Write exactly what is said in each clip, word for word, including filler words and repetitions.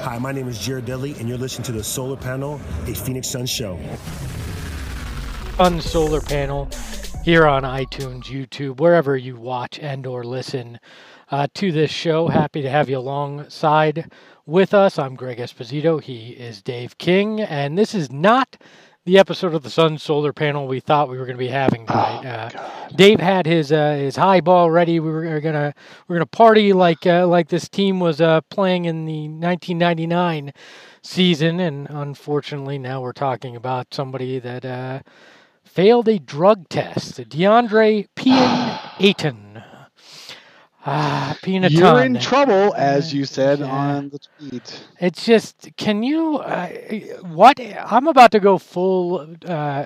Hi, my name is Jared Dudley, and you're listening to the Solar Panel, a Phoenix Suns show. On Solar Panel, here on iTunes, YouTube, wherever you watch and or listen uh, to this show. Happy to have you alongside with us. I'm Greg Esposito. He is Dave King, and this is not the episode of the Sun Solar Panel we thought we were going to be having tonight. Uh, Dave had his uh, his highball ready. We were gonna we are gonna party like uh, like this team was uh, playing in the nineteen ninety-nine season, and unfortunately now we're talking about somebody that uh, failed a drug test. DeAndre Pian Ayton. Ah, Peanut. You're in trouble, as you said yeah. on the tweet. It's just, can you, uh, what, I'm about to go full, uh,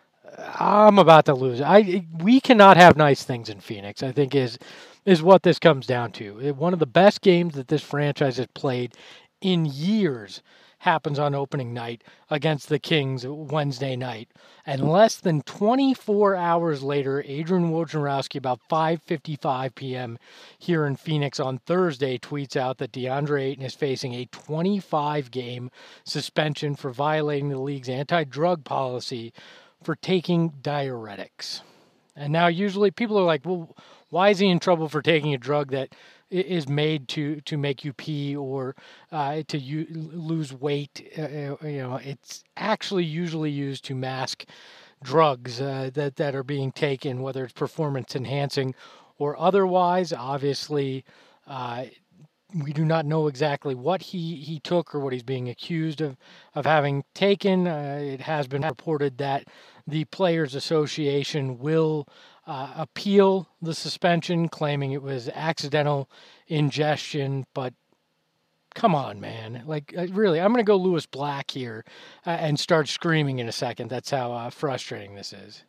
I'm about to lose. I, we cannot have nice things in Phoenix, I think is, is what this comes down to. One of the best games that this franchise has played in years happens on opening night against the Kings Wednesday night. And less than twenty-four hours later, Adrian Wojnarowski, about five fifty-five p.m. here in Phoenix on Thursday, tweets out that DeAndre Ayton is facing a twenty-five game suspension for violating the league's anti-drug policy for taking diuretics. And now usually people are like, well, why is he in trouble for taking a drug that is made to, to make you pee or uh, to u- lose weight? Uh, you know, it's actually usually used to mask drugs uh, that, that are being taken, whether it's performance enhancing or otherwise. Obviously, uh, we do not know exactly what he, he took or what he's being accused of, of having taken. Uh, it has been reported that the Players Association will Uh, appeal the suspension, claiming it was accidental ingestion. But come on, man. Like, really, I'm going to go Lewis Black here uh, and start screaming in a second. That's how uh, frustrating this is.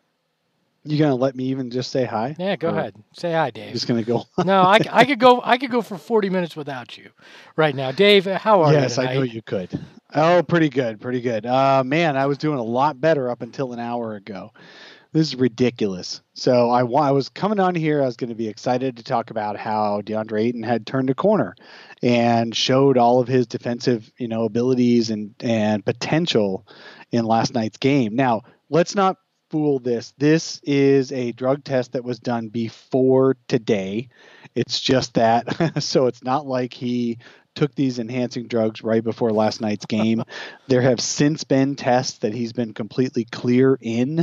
You going to let me even just say hi? Yeah, go or ahead. Say hi, Dave. Just going to go. No, I, I could go I could go for forty minutes without you right now. Dave, how are yes, you Yes, I know you could. Oh, pretty good, pretty good. Uh, man, I was doing a lot better up until an hour ago. This is ridiculous. So I, I was coming on here. I was going to be excited to talk about how DeAndre Ayton had turned a corner and showed all of his defensive, you know, abilities and, and potential in last night's game. Now, let's not fool this. This is a drug test that was done before today. It's just that. So it's not like he took these enhancing drugs right before last night's game. There have since been tests that he's been completely clear in.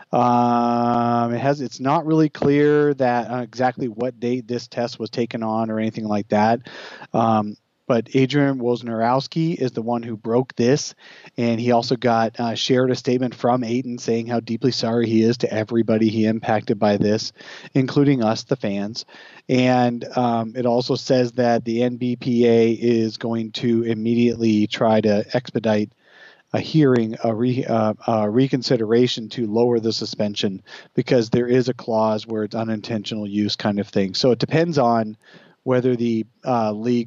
Um, it has. It's not really clear that uh, exactly what date this test was taken on or anything like that. Um, but Adrian Wojnarowski is the one who broke this, and he also got uh, shared a statement from Ayton saying how deeply sorry he is to everybody he impacted by this, including us, the fans. And um, it also says that the N B P A is going to immediately try to expedite a hearing, a, re, uh, a reconsideration to lower the suspension, because there is a clause where it's unintentional use kind of thing. So it depends on whether the uh, league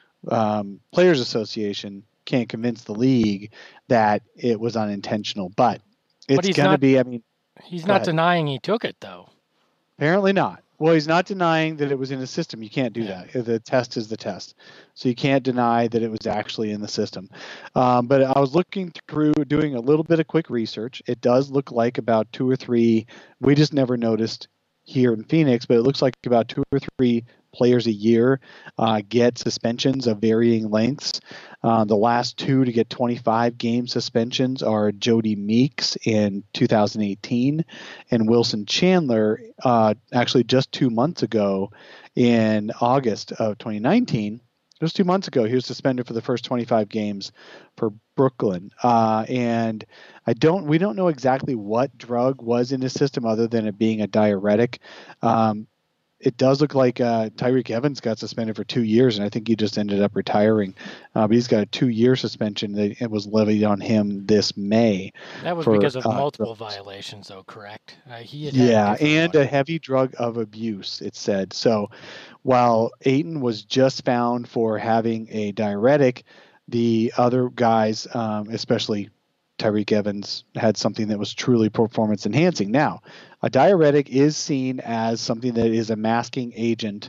um, Players Association can't convince the league that it was unintentional. But it's but going to be, I mean. He's not ahead. denying he took it, though. Apparently not. Well, he's not denying that it was in the system. You can't do yeah. that. The test is the test. So you can't deny that it was actually in the system. Um, but I was looking through, doing a little bit of quick research. It does look like about two or three, we just never noticed here in Phoenix, but it looks like about two or three players a year uh, get suspensions of varying lengths. Uh, the last two to get twenty-five game suspensions are Jody Meeks in two thousand eighteen and Wilson Chandler uh, actually just two months ago in August of twenty nineteen. Just two months ago, he was suspended for the first twenty-five games for Brooklyn. Uh, and I don't, we don't know exactly what drug was in his system other than it being a diuretic. Um, It does look like uh, Tyreke Evans got suspended for two years, and I think he just ended up retiring. Uh, but he's got a two-year suspension that it was levied on him this May. That was for, because of uh, multiple drugs. violations, though, correct? Uh, he had yeah, had a and one. a heavy drug of abuse, it said. So while Ayton was just found for having a diuretic, the other guys, um, especially Tyreke Evans, had something that was truly performance enhancing. Now, a diuretic is seen as something that is a masking agent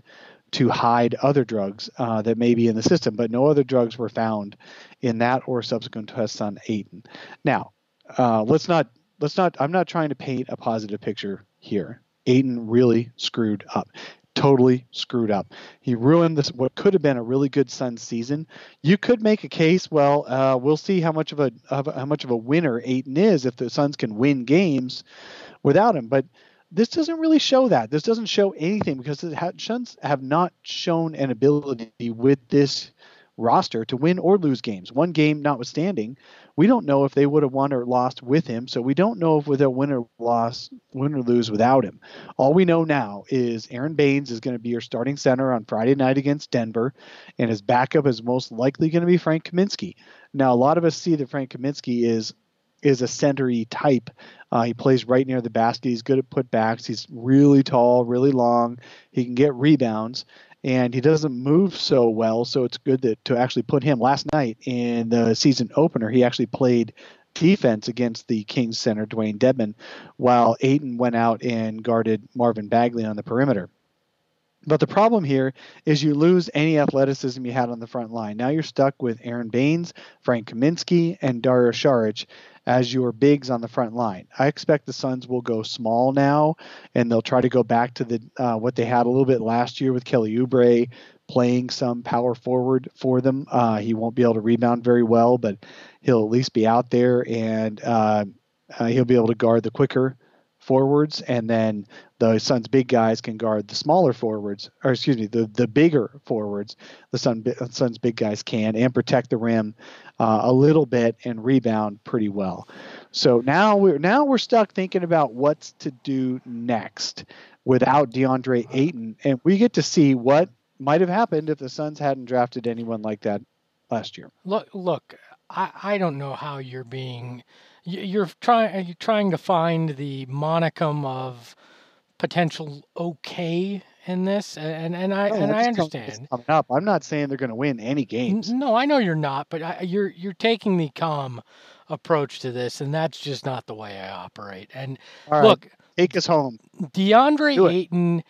to hide other drugs uh, that may be in the system, but no other drugs were found in that or subsequent tests on Ayton. Now, uh, let's not let's not. I'm not trying to paint a positive picture here. Ayton really screwed up. Totally screwed up. He ruined this what could have been a really good Suns season. You could make a case. Well, uh, we'll see how much of a of, how much of a winner Ayton is if the Suns can win games without him. But this doesn't really show that. This doesn't show anything because the Suns have not shown an ability with this roster to win or lose games. One game notwithstanding, we don't know if they would have won or lost with him. So we don't know if they'll win or loss, win or lose without him. All we know now is Aaron Baines is going to be your starting center on Friday night against Denver, and his backup is most likely going to be Frank Kaminsky. Now, a lot of us see that Frank Kaminsky is is a center-y type. Uh, he plays right near the basket. He's good at putbacks. He's really tall, really long. He can get rebounds, and he doesn't move so well, so it's good that, to actually put him. Last night in the season opener, he actually played defense against the Kings center, Dwayne Dedmon, while Ayton went out and guarded Marvin Bagley on the perimeter. But the problem here is you lose any athleticism you had on the front line. Now you're stuck with Aaron Baines, Frank Kaminsky, and Dario Saric as your bigs on the front line. I expect the Suns will go small now, and they'll try to go back to the uh, what they had a little bit last year with Kelly Oubre playing some power forward for them. Uh, he won't be able to rebound very well, but he'll at least be out there, and uh, uh, he'll be able to guard the quicker forwards, and then the Suns' big guys can guard the smaller forwards, or excuse me, the, the bigger forwards. The Sun, Suns' big guys can, and protect the rim uh, a little bit and rebound pretty well. So now we're now we're stuck thinking about what's to do next without DeAndre Ayton, and we get to see what might have happened if the Suns hadn't drafted anyone like that last year. Look, look, I, I don't know how you're being. You're trying you're trying to find the monicum of potential okay in this, and and I No, and I'm I just telling you understand. what's coming up. I'm not saying they're going to win any games. No, I know you're not, but I, you're you're taking the calm approach to this, and that's just not the way I operate. And All right, look, take us home. DeAndre Ayton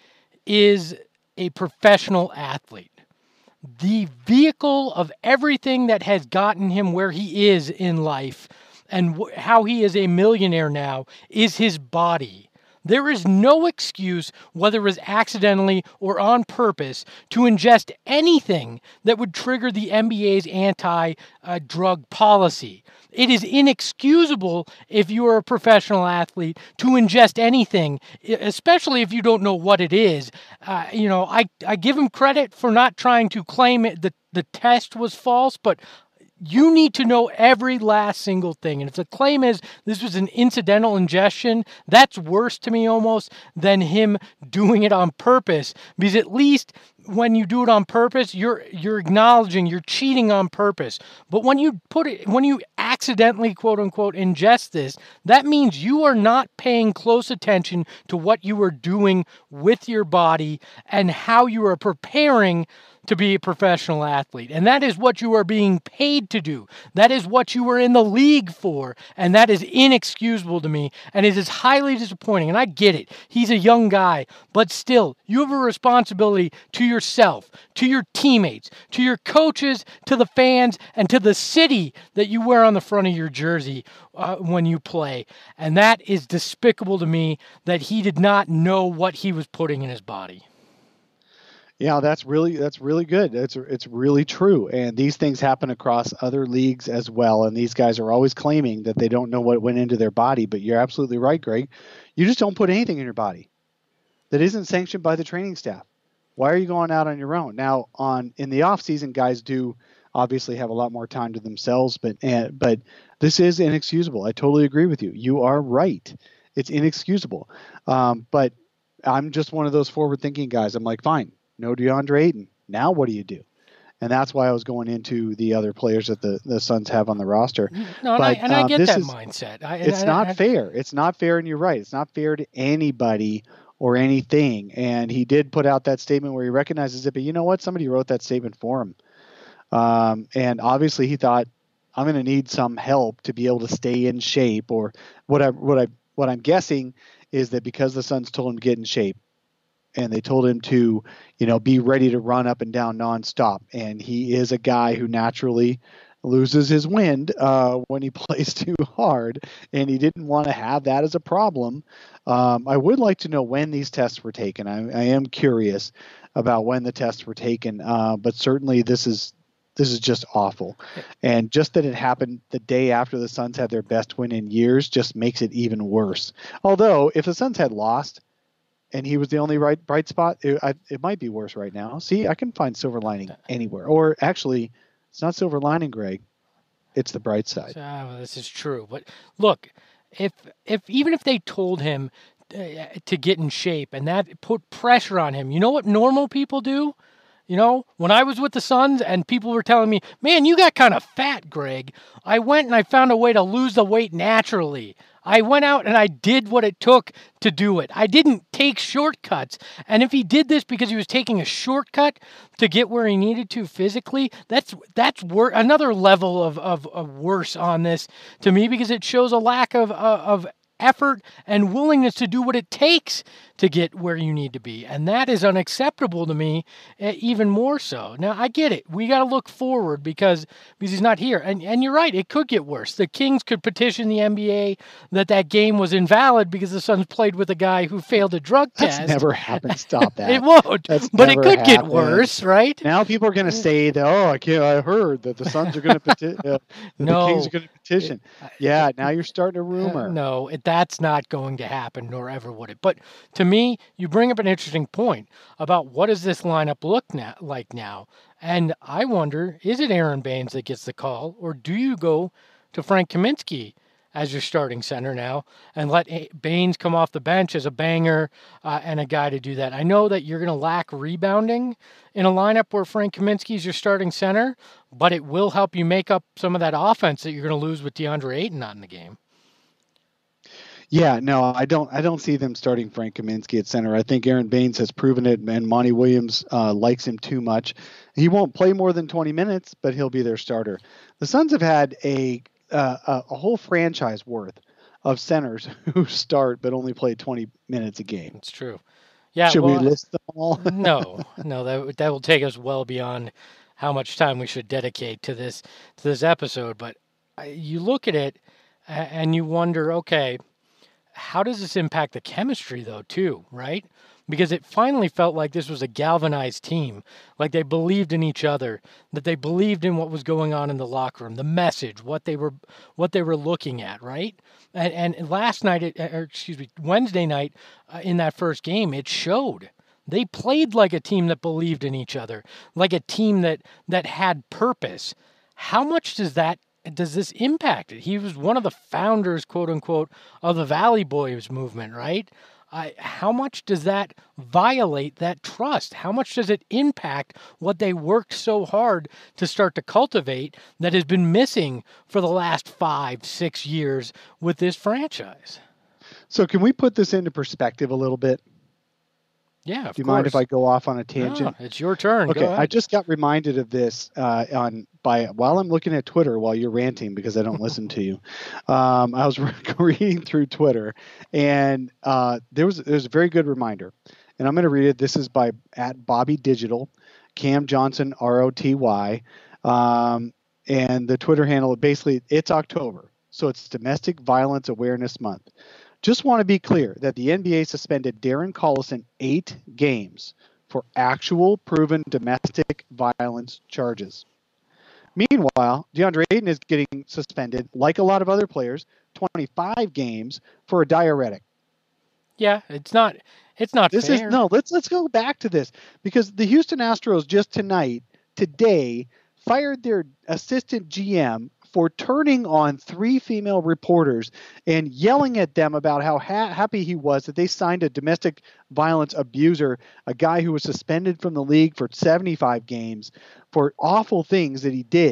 is a professional athlete. The vehicle of everything that has gotten him where he is in life and wh- how he is a millionaire now is his body. There is no excuse, whether it was accidentally or on purpose, to ingest anything that would trigger the N B A's anti-drug policy. It is inexcusable if you are a professional athlete to ingest anything, especially if you don't know what it is. Uh, you know, I, I give him credit for not trying to claim it, that the test was false, but you need to know every last single thing. And if the claim is this was an incidental ingestion, that's worse to me almost than him doing it on purpose. Because at least when you do it on purpose, you're you're acknowledging you're cheating on purpose. But when you put it, when you accidentally, quote unquote, ingest this, that means you are not paying close attention to what you are doing with your body and how you are preparing to be a professional athlete. And that is what you are being paid to do. That is what you were in the league for. And that is inexcusable to me. And it is highly disappointing. And I get it. He's a young guy. But still, you have a responsibility to yourself, to your teammates, to your coaches, to the fans, and to the city that you wear on the front of your jersey uh, when you play. And that is despicable to me that he did not know what he was putting in his body. Yeah, that's really that's really good. It's it's really true. And these things happen across other leagues as well. And these guys are always claiming that they don't know what went into their body. But you're absolutely right, Greg. You just don't put anything in your body that isn't sanctioned by the training staff. Why are you going out on your own? Now, on in the off season, guys do obviously have a lot more time to themselves. But uh, but this is inexcusable. I totally agree with you. You are right. It's inexcusable. Um, but I'm just one of those forward-thinking guys. I'm like, fine. No DeAndre Ayton. Now what do you do? And that's why I was going into the other players that the, the Suns have on the roster. No, and, but, I, and I um, get this that is, mindset. I, it's I, not I, fair. It's not fair, and you're right. It's not fair to anybody or anything. And he did put out that statement where he recognizes it, but you know what? Somebody wrote that statement for him. Um, and obviously he thought, I'm going to need some help to be able to stay in shape, or what I, what I, what I'm guessing is that because the Suns told him to get in shape, and they told him to, you know, be ready to run up and down nonstop. And he is a guy who naturally loses his wind uh, when he plays too hard, and he didn't want to have that as a problem. Um, I would like to know when these tests were taken. I, I am curious about when the tests were taken, uh, but certainly this is this is just awful. And just that it happened the day after the Suns had their best win in years just makes it even worse. Although if the Suns had lost and he was the only right bright spot, it, I, it might be worse right now. See, I can find silver lining anywhere. Or actually, it's not silver lining, Greg. It's the bright side. Oh, this is true. But look, if if even if they told him uh, to get in shape and that put pressure on him, you know what normal people do? You know, when I was with the Suns and people were telling me, man, you got kind of fat, Greg, I went and I found a way to lose the weight naturally. I went out and I did what it took to do it. I didn't take shortcuts. And if he did this because he was taking a shortcut to get where he needed to physically, that's that's wor- another level of, of, of worse on this to me, because it shows a lack of, uh, of effort and willingness to do what it takes to get where you need to be. And that is unacceptable to me, uh, even more so. Now, I get it. We got to look forward because, because he's not here. And and you're right, it could get worse. The Kings could petition the N B A that that game was invalid because the Suns played with a guy who failed a drug That's test. never happened. Stop that. It won't. That's but it never could get happened. worse, right? Now people are going to say that, oh, I can't, I heard that the Suns are going to petition, uh, that No. the Kings are going to petition. Yeah, now you're starting a rumor. Uh, no, it, that's not going to happen, nor ever would it. But to me, you bring up an interesting point about what does this lineup look na- like now. And I wonder, is it Aaron Baines that gets the call, or do you go to Frank Kaminsky as your starting center now and let A- Baines come off the bench as a banger uh, and a guy to do that? I know that you're going to lack rebounding in a lineup where Frank Kaminsky is your starting center, but it will help you make up some of that offense that you're going to lose with DeAndre Ayton not in the game. Yeah, no, I don't. I don't see them starting Frank Kaminsky at center. I think Aaron Baines has proven it, and Monty Williams uh, likes him too much. He won't play more than twenty minutes, but he'll be their starter. The Suns have had a uh, a, a whole franchise worth of centers who start but only play twenty minutes a game. It's true. Yeah. Should well, we list them all? no, no, that that will take us well beyond how much time we should dedicate to this to this episode. But uh, you look at it a- and you wonder, okay, how does this impact the chemistry, though, too, right? Because it finally felt like this was a galvanized team, like they believed in each other, that they believed in what was going on in the locker room, the message, what they were, what they were looking at, right? And, and last night, it, or excuse me, Wednesday night, uh, in that first game, it showed. They played like a team that believed in each other, like a team that that had purpose. How much does that does this impact it? He was one of the founders, quote unquote, of the Valley Boys movement, right? I, how much does that violate that trust? How much does it impact what they worked so hard to start to cultivate that has been missing for the last five, six years with this franchise? So can we put this into perspective a little bit? Yeah, of Do you course. mind if I go off on a tangent? No, it's your turn. Okay, Go ahead. I just got reminded of this uh, on by while I'm looking at Twitter while you're ranting because I don't listen to you. Um, I was reading through Twitter, and uh, there was there's a very good reminder, and I'm going to read it. This is by at Bobby Digital, Cam Johnson R O T Y, um, and the Twitter handle basically it's October, so it's Domestic Violence Awareness Month. Just want to be clear that the N B A suspended Darren Collison eight games for actual proven domestic violence charges. Meanwhile, DeAndre Ayton is getting suspended, like a lot of other players, twenty-five games for a diuretic. Yeah, it's not it's not This fair. is no. Let's let's go back to this because the Houston Astros just tonight, today, fired their assistant G M for turning on three female reporters and yelling at them about how ha- happy he was that they signed a domestic violence abuser, a guy who was suspended from the league for seventy-five games for awful things that he did.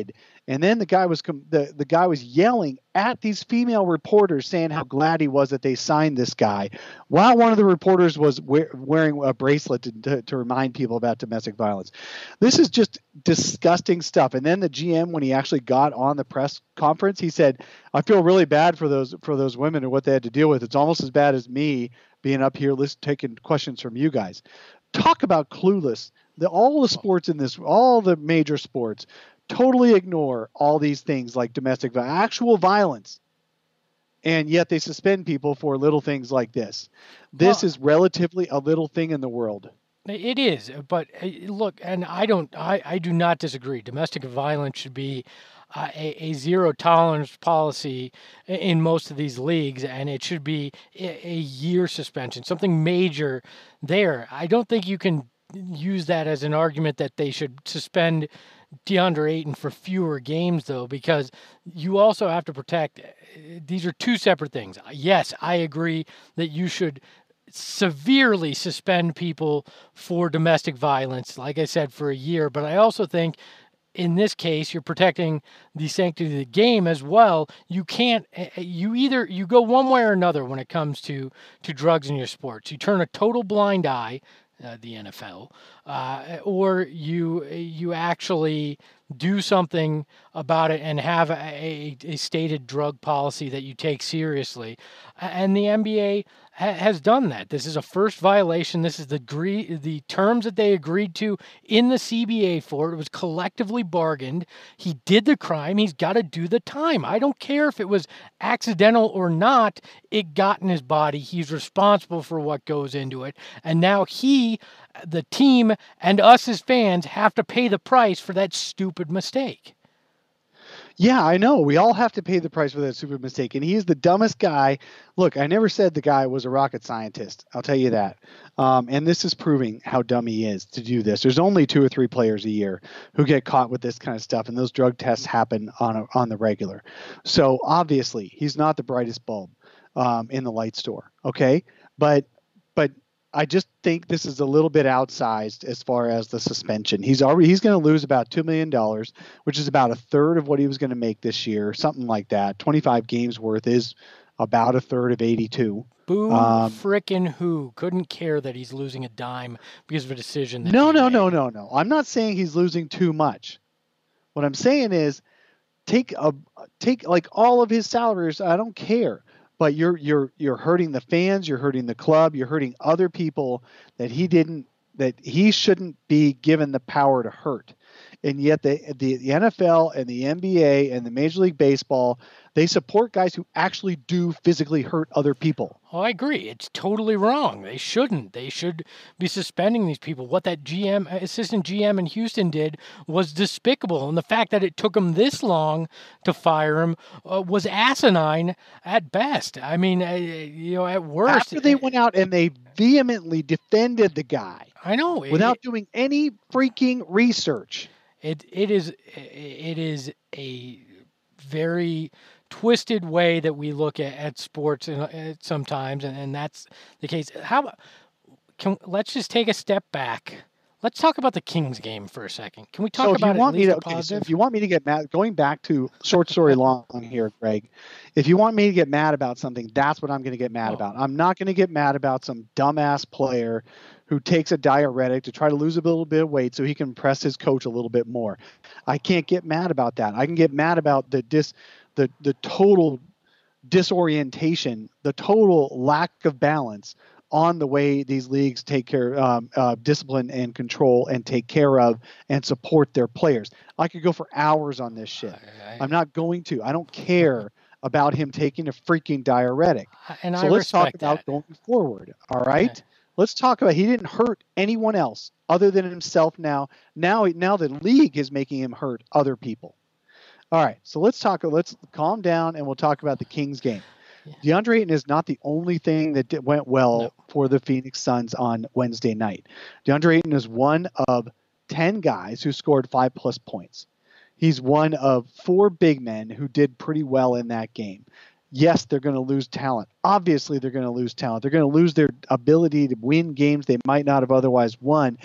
And then the guy was com- the, the guy was yelling at these female reporters saying how glad he was that they signed this guy, while one of the reporters was we- wearing a bracelet to, to, to remind people about domestic violence. This is just disgusting stuff. And then the G M, when he actually got on the press conference, he said, I feel really bad for those for those women and what they had to deal with. It's almost as bad as me being up here list, taking questions from you guys. Talk about clueless. The, all the sports in this, all the major sports, totally ignore all these things like domestic violence, actual violence, and yet they suspend people for little things like this. This well, is relatively a little thing in the world. It is, but look, and I don't, I, I do not disagree. Domestic violence should be uh, a, a zero tolerance policy in most of these leagues, and it should be a, a year suspension, something major there. I don't think you can use that as an argument that they should suspend DeAndre Ayton for fewer games, though, because you also have to protect. These are two separate things. Yes, I agree that you should severely suspend people for domestic violence, like I said, for a year. But I also think in this case, you're protecting the sanctity of the game as well. You can't, you either, you go one way or another when it comes to, to drugs in your sports. You turn a total blind eye, Uh, the N F L, uh, or you you actually do something about it and have a, a, a stated drug policy that you take seriously. And the N B A ha- has done that. This is a first violation. This is the agree- the terms that they agreed to in the C B A for it. It was collectively bargained. He did the crime. He's got to do the time. I don't care if it was accidental or not. It got in his body. He's responsible for what goes into it. And now he, the team, and us as fans have to pay the price for that stupid mistake. Yeah, I know. We all have to pay the price for that stupid mistake. And he's the dumbest guy. Look, I never said the guy was a rocket scientist. I'll tell you that. Um, and this is proving how dumb he is to do this. There's only two or three players a year who get caught with this kind of stuff. And those drug tests happen on a, on the regular. So obviously he's not the brightest bulb um, in the light store. Okay. But, but, I just think this is a little bit outsized as far as the suspension. He's already he's going to lose about two million dollars, which is about a third of what he was going to make this year, something like that. twenty-five games worth is about a third of eighty-two. Boo um, frickin' who couldn't care that he's losing a dime because of a decision that No, he no, made. no, no, no. I'm not saying he's losing too much. What I'm saying is take a take like all of his salaries. I don't care. But you're you're you're hurting the fans, you're hurting the club, you're hurting other people that he didn't that he shouldn't be given the power to hurt. And yet the, the the N F L and the N B A and the Major League Baseball, they support guys who actually do physically hurt other people. Oh, I agree. It's totally wrong. They shouldn't. They should be suspending these people. What that G M, assistant G M in Houston did was despicable. And the fact that it took him this long to fire him uh, was asinine at best. I mean, uh, you know, at worst. After they went out and they vehemently defended the guy. I know. Without it, doing any freaking research. It It is, it is a very twisted way that we look at, at sports and uh, sometimes, and, and that's the case. How about, can let's just take a step back. Let's talk about the Kings game for a second. Can we talk so if about you want at me least to, a positive? okay, so if you want me to get mad, going back to short story long here, Greg, if you want me to get mad about something, that's what I'm going to get mad Oh. about. I'm not going to get mad about some dumbass player who takes a diuretic to try to lose a little bit of weight so he can impress his coach a little bit more. I can't get mad about that. I can get mad about the dis, the the total disorientation, the total lack of balance on the way these leagues take care um, uh, discipline and control and take care of and support their players. I could go for hours on this shit. I- I- I'm not going to. I don't care about him taking a freaking diuretic. And So I let's talk respect about that. going forward. All right. Okay. Let's talk about he didn't hurt anyone else other than himself. Now, now, now the league is making him hurt other people. All right. So let's talk. Let's calm down and we'll talk about the Kings game. DeAndre Ayton is not the only thing that did, went well No. for the Phoenix Suns on Wednesday night. DeAndre Ayton is one of ten guys who scored five plus points. He's one of four big men who did pretty well in that game. Yes, they're going to lose talent. Obviously, they're going to lose talent. They're going to lose their ability to win games they might not have otherwise won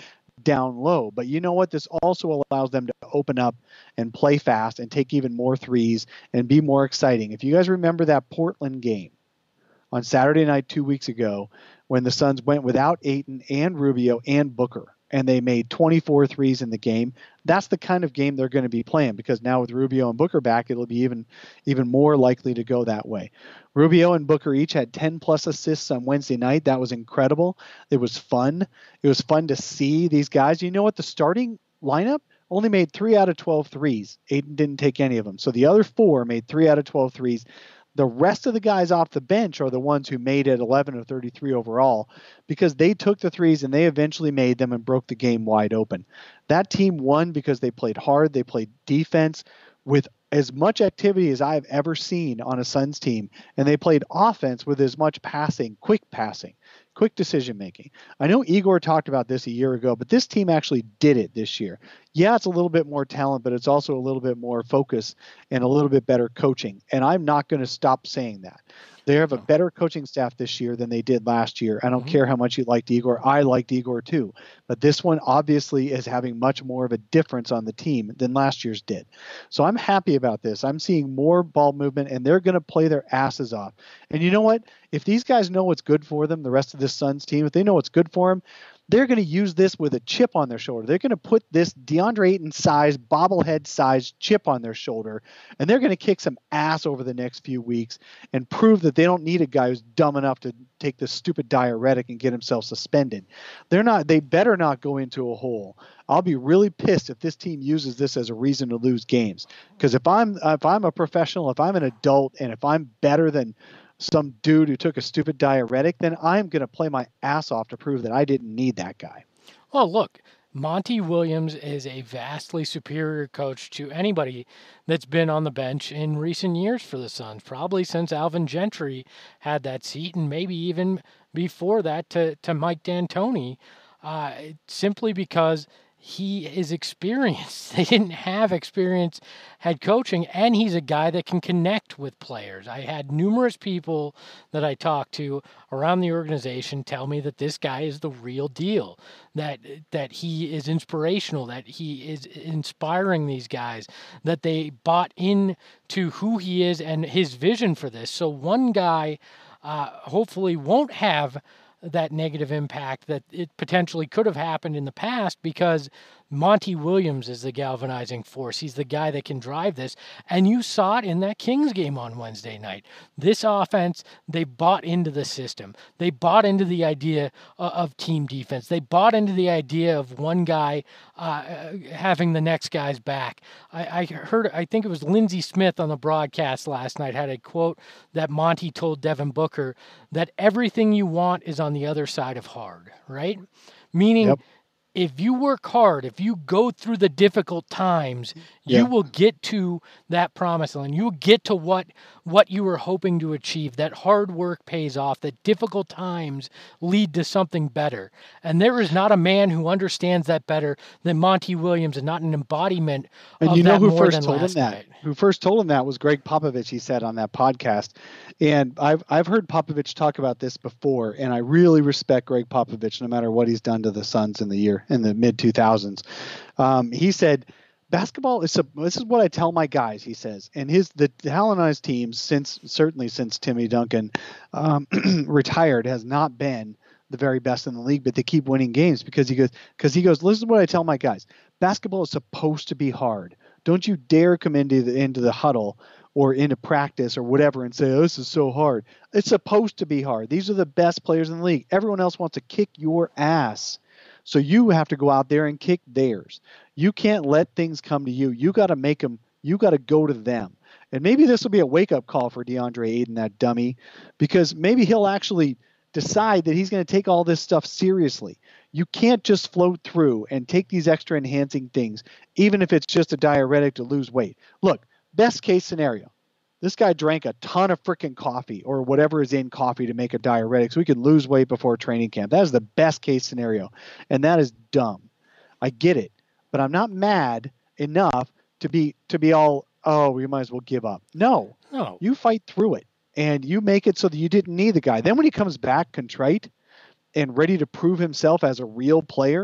down low. But you know what? This also allows them to open up and play fast and take even more threes and be more exciting. If you guys remember that Portland game on Saturday night two weeks ago when the Suns went without Ayton and Rubio and Booker, and they made twenty-four threes in the game, that's the kind of game they're going to be playing, because now with Rubio and Booker back, it'll be even even more likely to go that way. Rubio and Booker each had ten plus assists on Wednesday night. That was incredible. It was fun. It was fun to see these guys. You know what? The starting lineup only made three out of twelve threes. Ayton didn't take any of them. So the other four made three out of twelve threes. The rest of the guys off the bench are the ones who made it eleven of thirty-three overall, because they took the threes and they eventually made them and broke the game wide open. That team won because they played hard. They played defense with as much activity as I've ever seen on a Suns team, and they played offense with as much passing, quick passing, quick decision making. I know Igor talked about this a year ago, but this team actually did it this year. Yeah, it's a little bit more talent, but it's also a little bit more focus and a little bit better coaching. And I'm not going to stop saying that. They have a better coaching staff this year than they did last year. I don't mm-hmm. care how much you liked Igor. I liked Igor too. But this one obviously is having much more of a difference on the team than last year's did. So I'm happy about this. I'm seeing more ball movement, and they're going to play their asses off. And you know what? If these guys know what's good for them, the rest of this Suns team, if they know what's good for them, they're going to use this with a chip on their shoulder. They're going to put this DeAndre Ayton size, bobblehead size chip on their shoulder, and they're going to kick some ass over the next few weeks and prove that they don't need a guy who's dumb enough to take this stupid diuretic and get himself suspended. They're not. They better not go into a hole. I'll be really pissed if this team uses this as a reason to lose games. Because if I'm if I'm a professional, if I'm an adult, and if I'm better than some dude who took a stupid diuretic, then I'm going to play my ass off to prove that I didn't need that guy. Well, look, Monty Williams is a vastly superior coach to anybody that's been on the bench in recent years for the Suns, probably since Alvin Gentry had that seat, and maybe even before that to, to Mike D'Antoni, uh, simply because he is experienced. They didn't have experience head coaching, and he's a guy that can connect with players. I had numerous people that I talked to around the organization tell me that this guy is the real deal, that that he is inspirational, that he is inspiring these guys, that they bought into who he is and his vision for this. So one guy uh, hopefully won't have that negative impact that it potentially could have happened in the past, because Monty Williams is the galvanizing force. He's the guy that can drive this. And you saw it in that Kings game on Wednesday night. This offense, they bought into the system. They bought into the idea of team defense. They bought into the idea of one guy uh, having the next guy's back. I, I heard, I think it was Lindsey Smith on the broadcast last night had a quote that Monty told Devin Booker, that everything you want is on the other side of hard, right? Meaning, yep. If you work hard, if you go through the difficult times, yeah. you will get to that promised land. You will get to what what you were hoping to achieve. That hard work pays off. That difficult times lead to something better. And there is not a man who understands that better than Monty Williams, and not an embodiment and of you know that who more first than told him last that? night. Who first told him that was Greg Popovich, he said on that podcast. And I've I've heard Popovich talk about this before, and I really respect Greg Popovich no matter what he's done to the Suns in the year in the mid two thousands. Um, he said, basketball is a, this is what I tell my guys, he says, and his the Hellenized teams since certainly since Timmy Duncan um, retired has not been the very best in the league, but they keep winning games because he goes because he goes. Listen to what I tell my guys. Basketball is supposed to be hard. Don't you dare come into the into the huddle or into practice or whatever and say, oh, this is so hard. It's supposed to be hard. These are the best players in the league. Everyone else wants to kick your ass. So you have to go out there and kick theirs. You can't let things come to you. You got to make them. You got to go to them. And maybe this will be a wake-up call for DeAndre Ayton, that dummy, because maybe he'll actually decide that he's going to take all this stuff seriously. You can't just float through and take these extra enhancing things, even if it's just a diuretic to lose weight. Look, best case scenario. This guy drank a ton of freaking coffee or whatever is in coffee to make a diuretic so he could lose weight before training camp. That is the best case scenario. And that is dumb. I get it. But I'm not mad enough to be to be all, oh, we might as well give up. No. No. You fight through it. And you make it so that you didn't need the guy. Then when he comes back contrite and ready to prove himself as a real player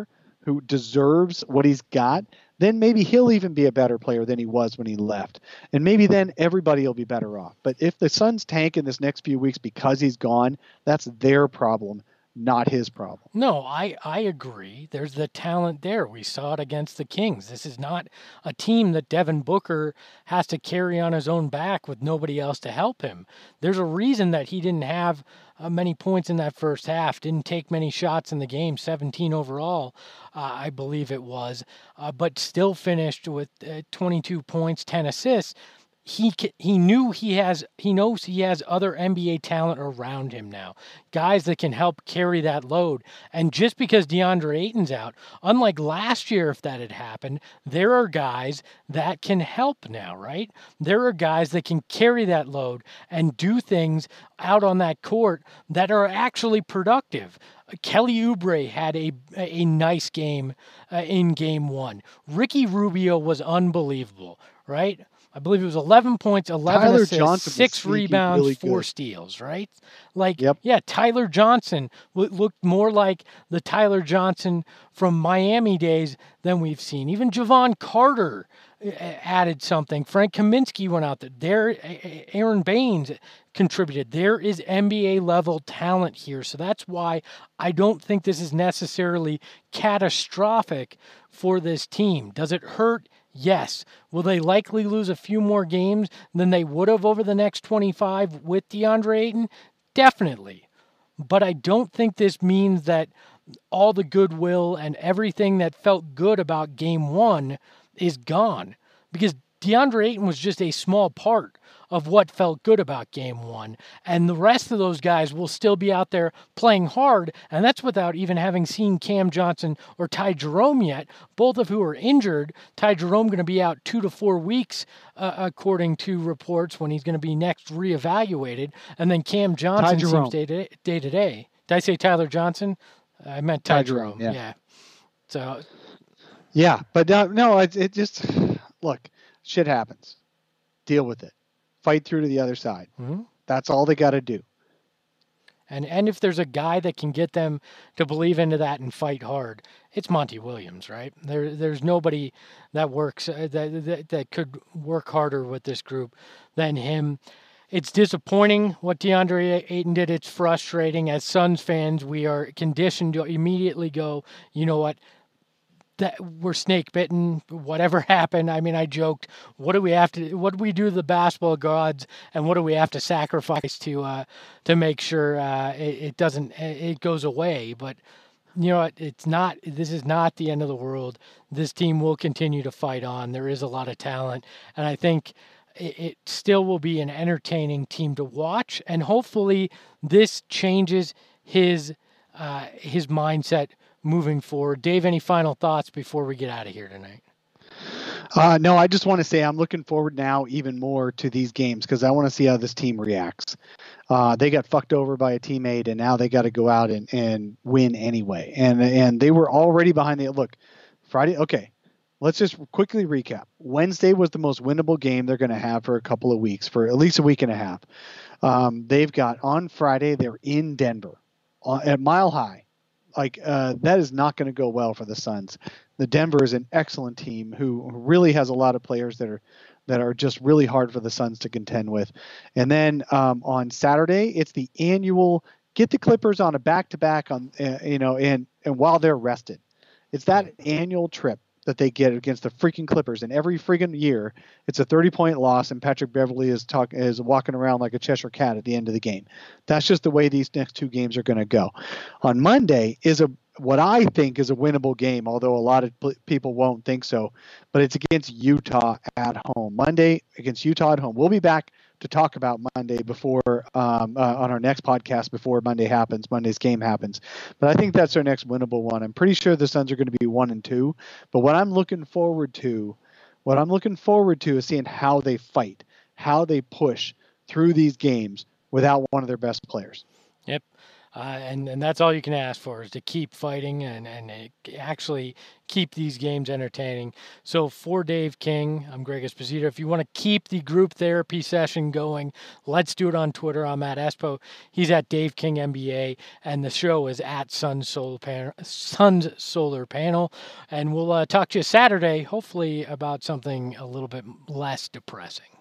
who deserves what he's got, then maybe he'll even be a better player than he was when he left. And maybe then everybody will be better off. But if the Suns tank in this next few weeks because he's gone, that's their problem, not his problem. No, I, I agree. There's the talent there. We saw it against the Kings. This is not a team that Devin Booker has to carry on his own back with nobody else to help him. There's a reason that he didn't have uh, many points in that first half, didn't take many shots in the game, seventeen overall, uh, I believe it was, uh, but still finished with uh, twenty-two points, ten assists. He he knew he has he knows he has other N B A talent around him now, guys that can help carry that load. And just because DeAndre Ayton's out, unlike last year, if that had happened, there are guys that can help now, right? There are guys that can carry that load and do things out on that court that are actually productive. Kelly Oubre had a a nice game uh, in game one. Ricky Rubio was unbelievable, right? I believe it was eleven points, eleven Tyler assists, Johnson six rebounds, really four good. steals, right? Like, Yep. yeah, Tyler Johnson w- looked more like the Tyler Johnson from Miami days than we've seen. Even Javon Carter uh, added something. Frank Kaminsky went out there. There, Aaron Baines contributed. There is N B A level talent here. So that's why I don't think this is necessarily catastrophic for this team. Does it hurt? Yes. Will they likely lose a few more games than they would have over the next twenty-five with DeAndre Ayton? Definitely. But I don't think this means that all the goodwill and everything that felt good about game one is gone, because DeAndre Ayton was just a small part of what felt good about game one. And the rest of those guys will still be out there playing hard. And that's without even having seen Cam Johnson or Ty Jerome yet, both of who are injured. Ty Jerome going to be out two to four weeks, uh, according to reports, when he's going to be next reevaluated. And then Cam Johnson seems day to day. to day. Did I say Tyler Johnson? I meant Ty, Ty Jerome. Jerome. Yeah. yeah. So. Yeah, but uh, no, it, it just, look, shit happens. Deal with it. Fight through to the other side. Mm-hmm. That's all they got to do. And and if there's a guy that can get them to believe into that and fight hard, it's Monty Williams, right? There there's nobody that works uh, that, that that could work harder with this group than him. It's disappointing what DeAndre Ayton did. It's frustrating. As Suns fans, we are conditioned to immediately go, you know what? That we're snake bitten, whatever happened. I mean, I joked, what do we have to, what do we do to the basketball gods, and what do we have to sacrifice to, uh, to make sure uh, it, it doesn't, it goes away? But you know what? It's not, this is not the end of the world. This team will continue to fight on. There is a lot of talent, and I think it, it still will be an entertaining team to watch. And hopefully this changes his, uh, his mindset moving forward. Dave, any final thoughts before we get out of here tonight? Uh, no, I just want to say I'm looking forward now even more to these games because I want to see how this team reacts. Uh, they got fucked over by a teammate, and now they got to go out and, and win anyway. And and they were already behind the look. Friday, okay. Let's just quickly recap. Wednesday was the most winnable game they're going to have for a couple of weeks, for at least a week and a half. Um, they've got on Friday, they're in Denver uh, at Mile High. Like uh, that is not going to go well for the Suns. The Denver is an excellent team who really has a lot of players that are that are just really hard for the Suns to contend with. And then um, on Saturday, it's the annual get the Clippers on a back-to-back on uh, you know and and while they're rested. It's that annual trip that they get against the freaking Clippers, and every freaking year it's a thirty-point loss, and Patrick Beverley is talk is walking around like a Cheshire cat at the end of the game. That's just the way these next two games are going to go. On Monday is a what I think is a winnable game, although a lot of people won't think so, but it's against Utah at home. Monday against Utah at home. We'll be back to talk about Monday before um, uh, on our next podcast before Monday happens, Monday's game happens. But I think that's our next winnable one. I'm pretty sure the Suns are going to be one and two. But what I'm looking forward to, what I'm looking forward to is seeing how they fight, how they push through these games without one of their best players. Yep. Uh, and, and that's all you can ask for is to keep fighting and, and uh, actually keep these games entertaining. So for Dave King, I'm Greg Esposito. If you want to keep the group therapy session going, let's do it on Twitter. I'm at Espo. He's at Dave King N B A. And the show is at Suns Solar Panel. Suns Solar Panel. And we'll uh, talk to you Saturday, hopefully about something a little bit less depressing.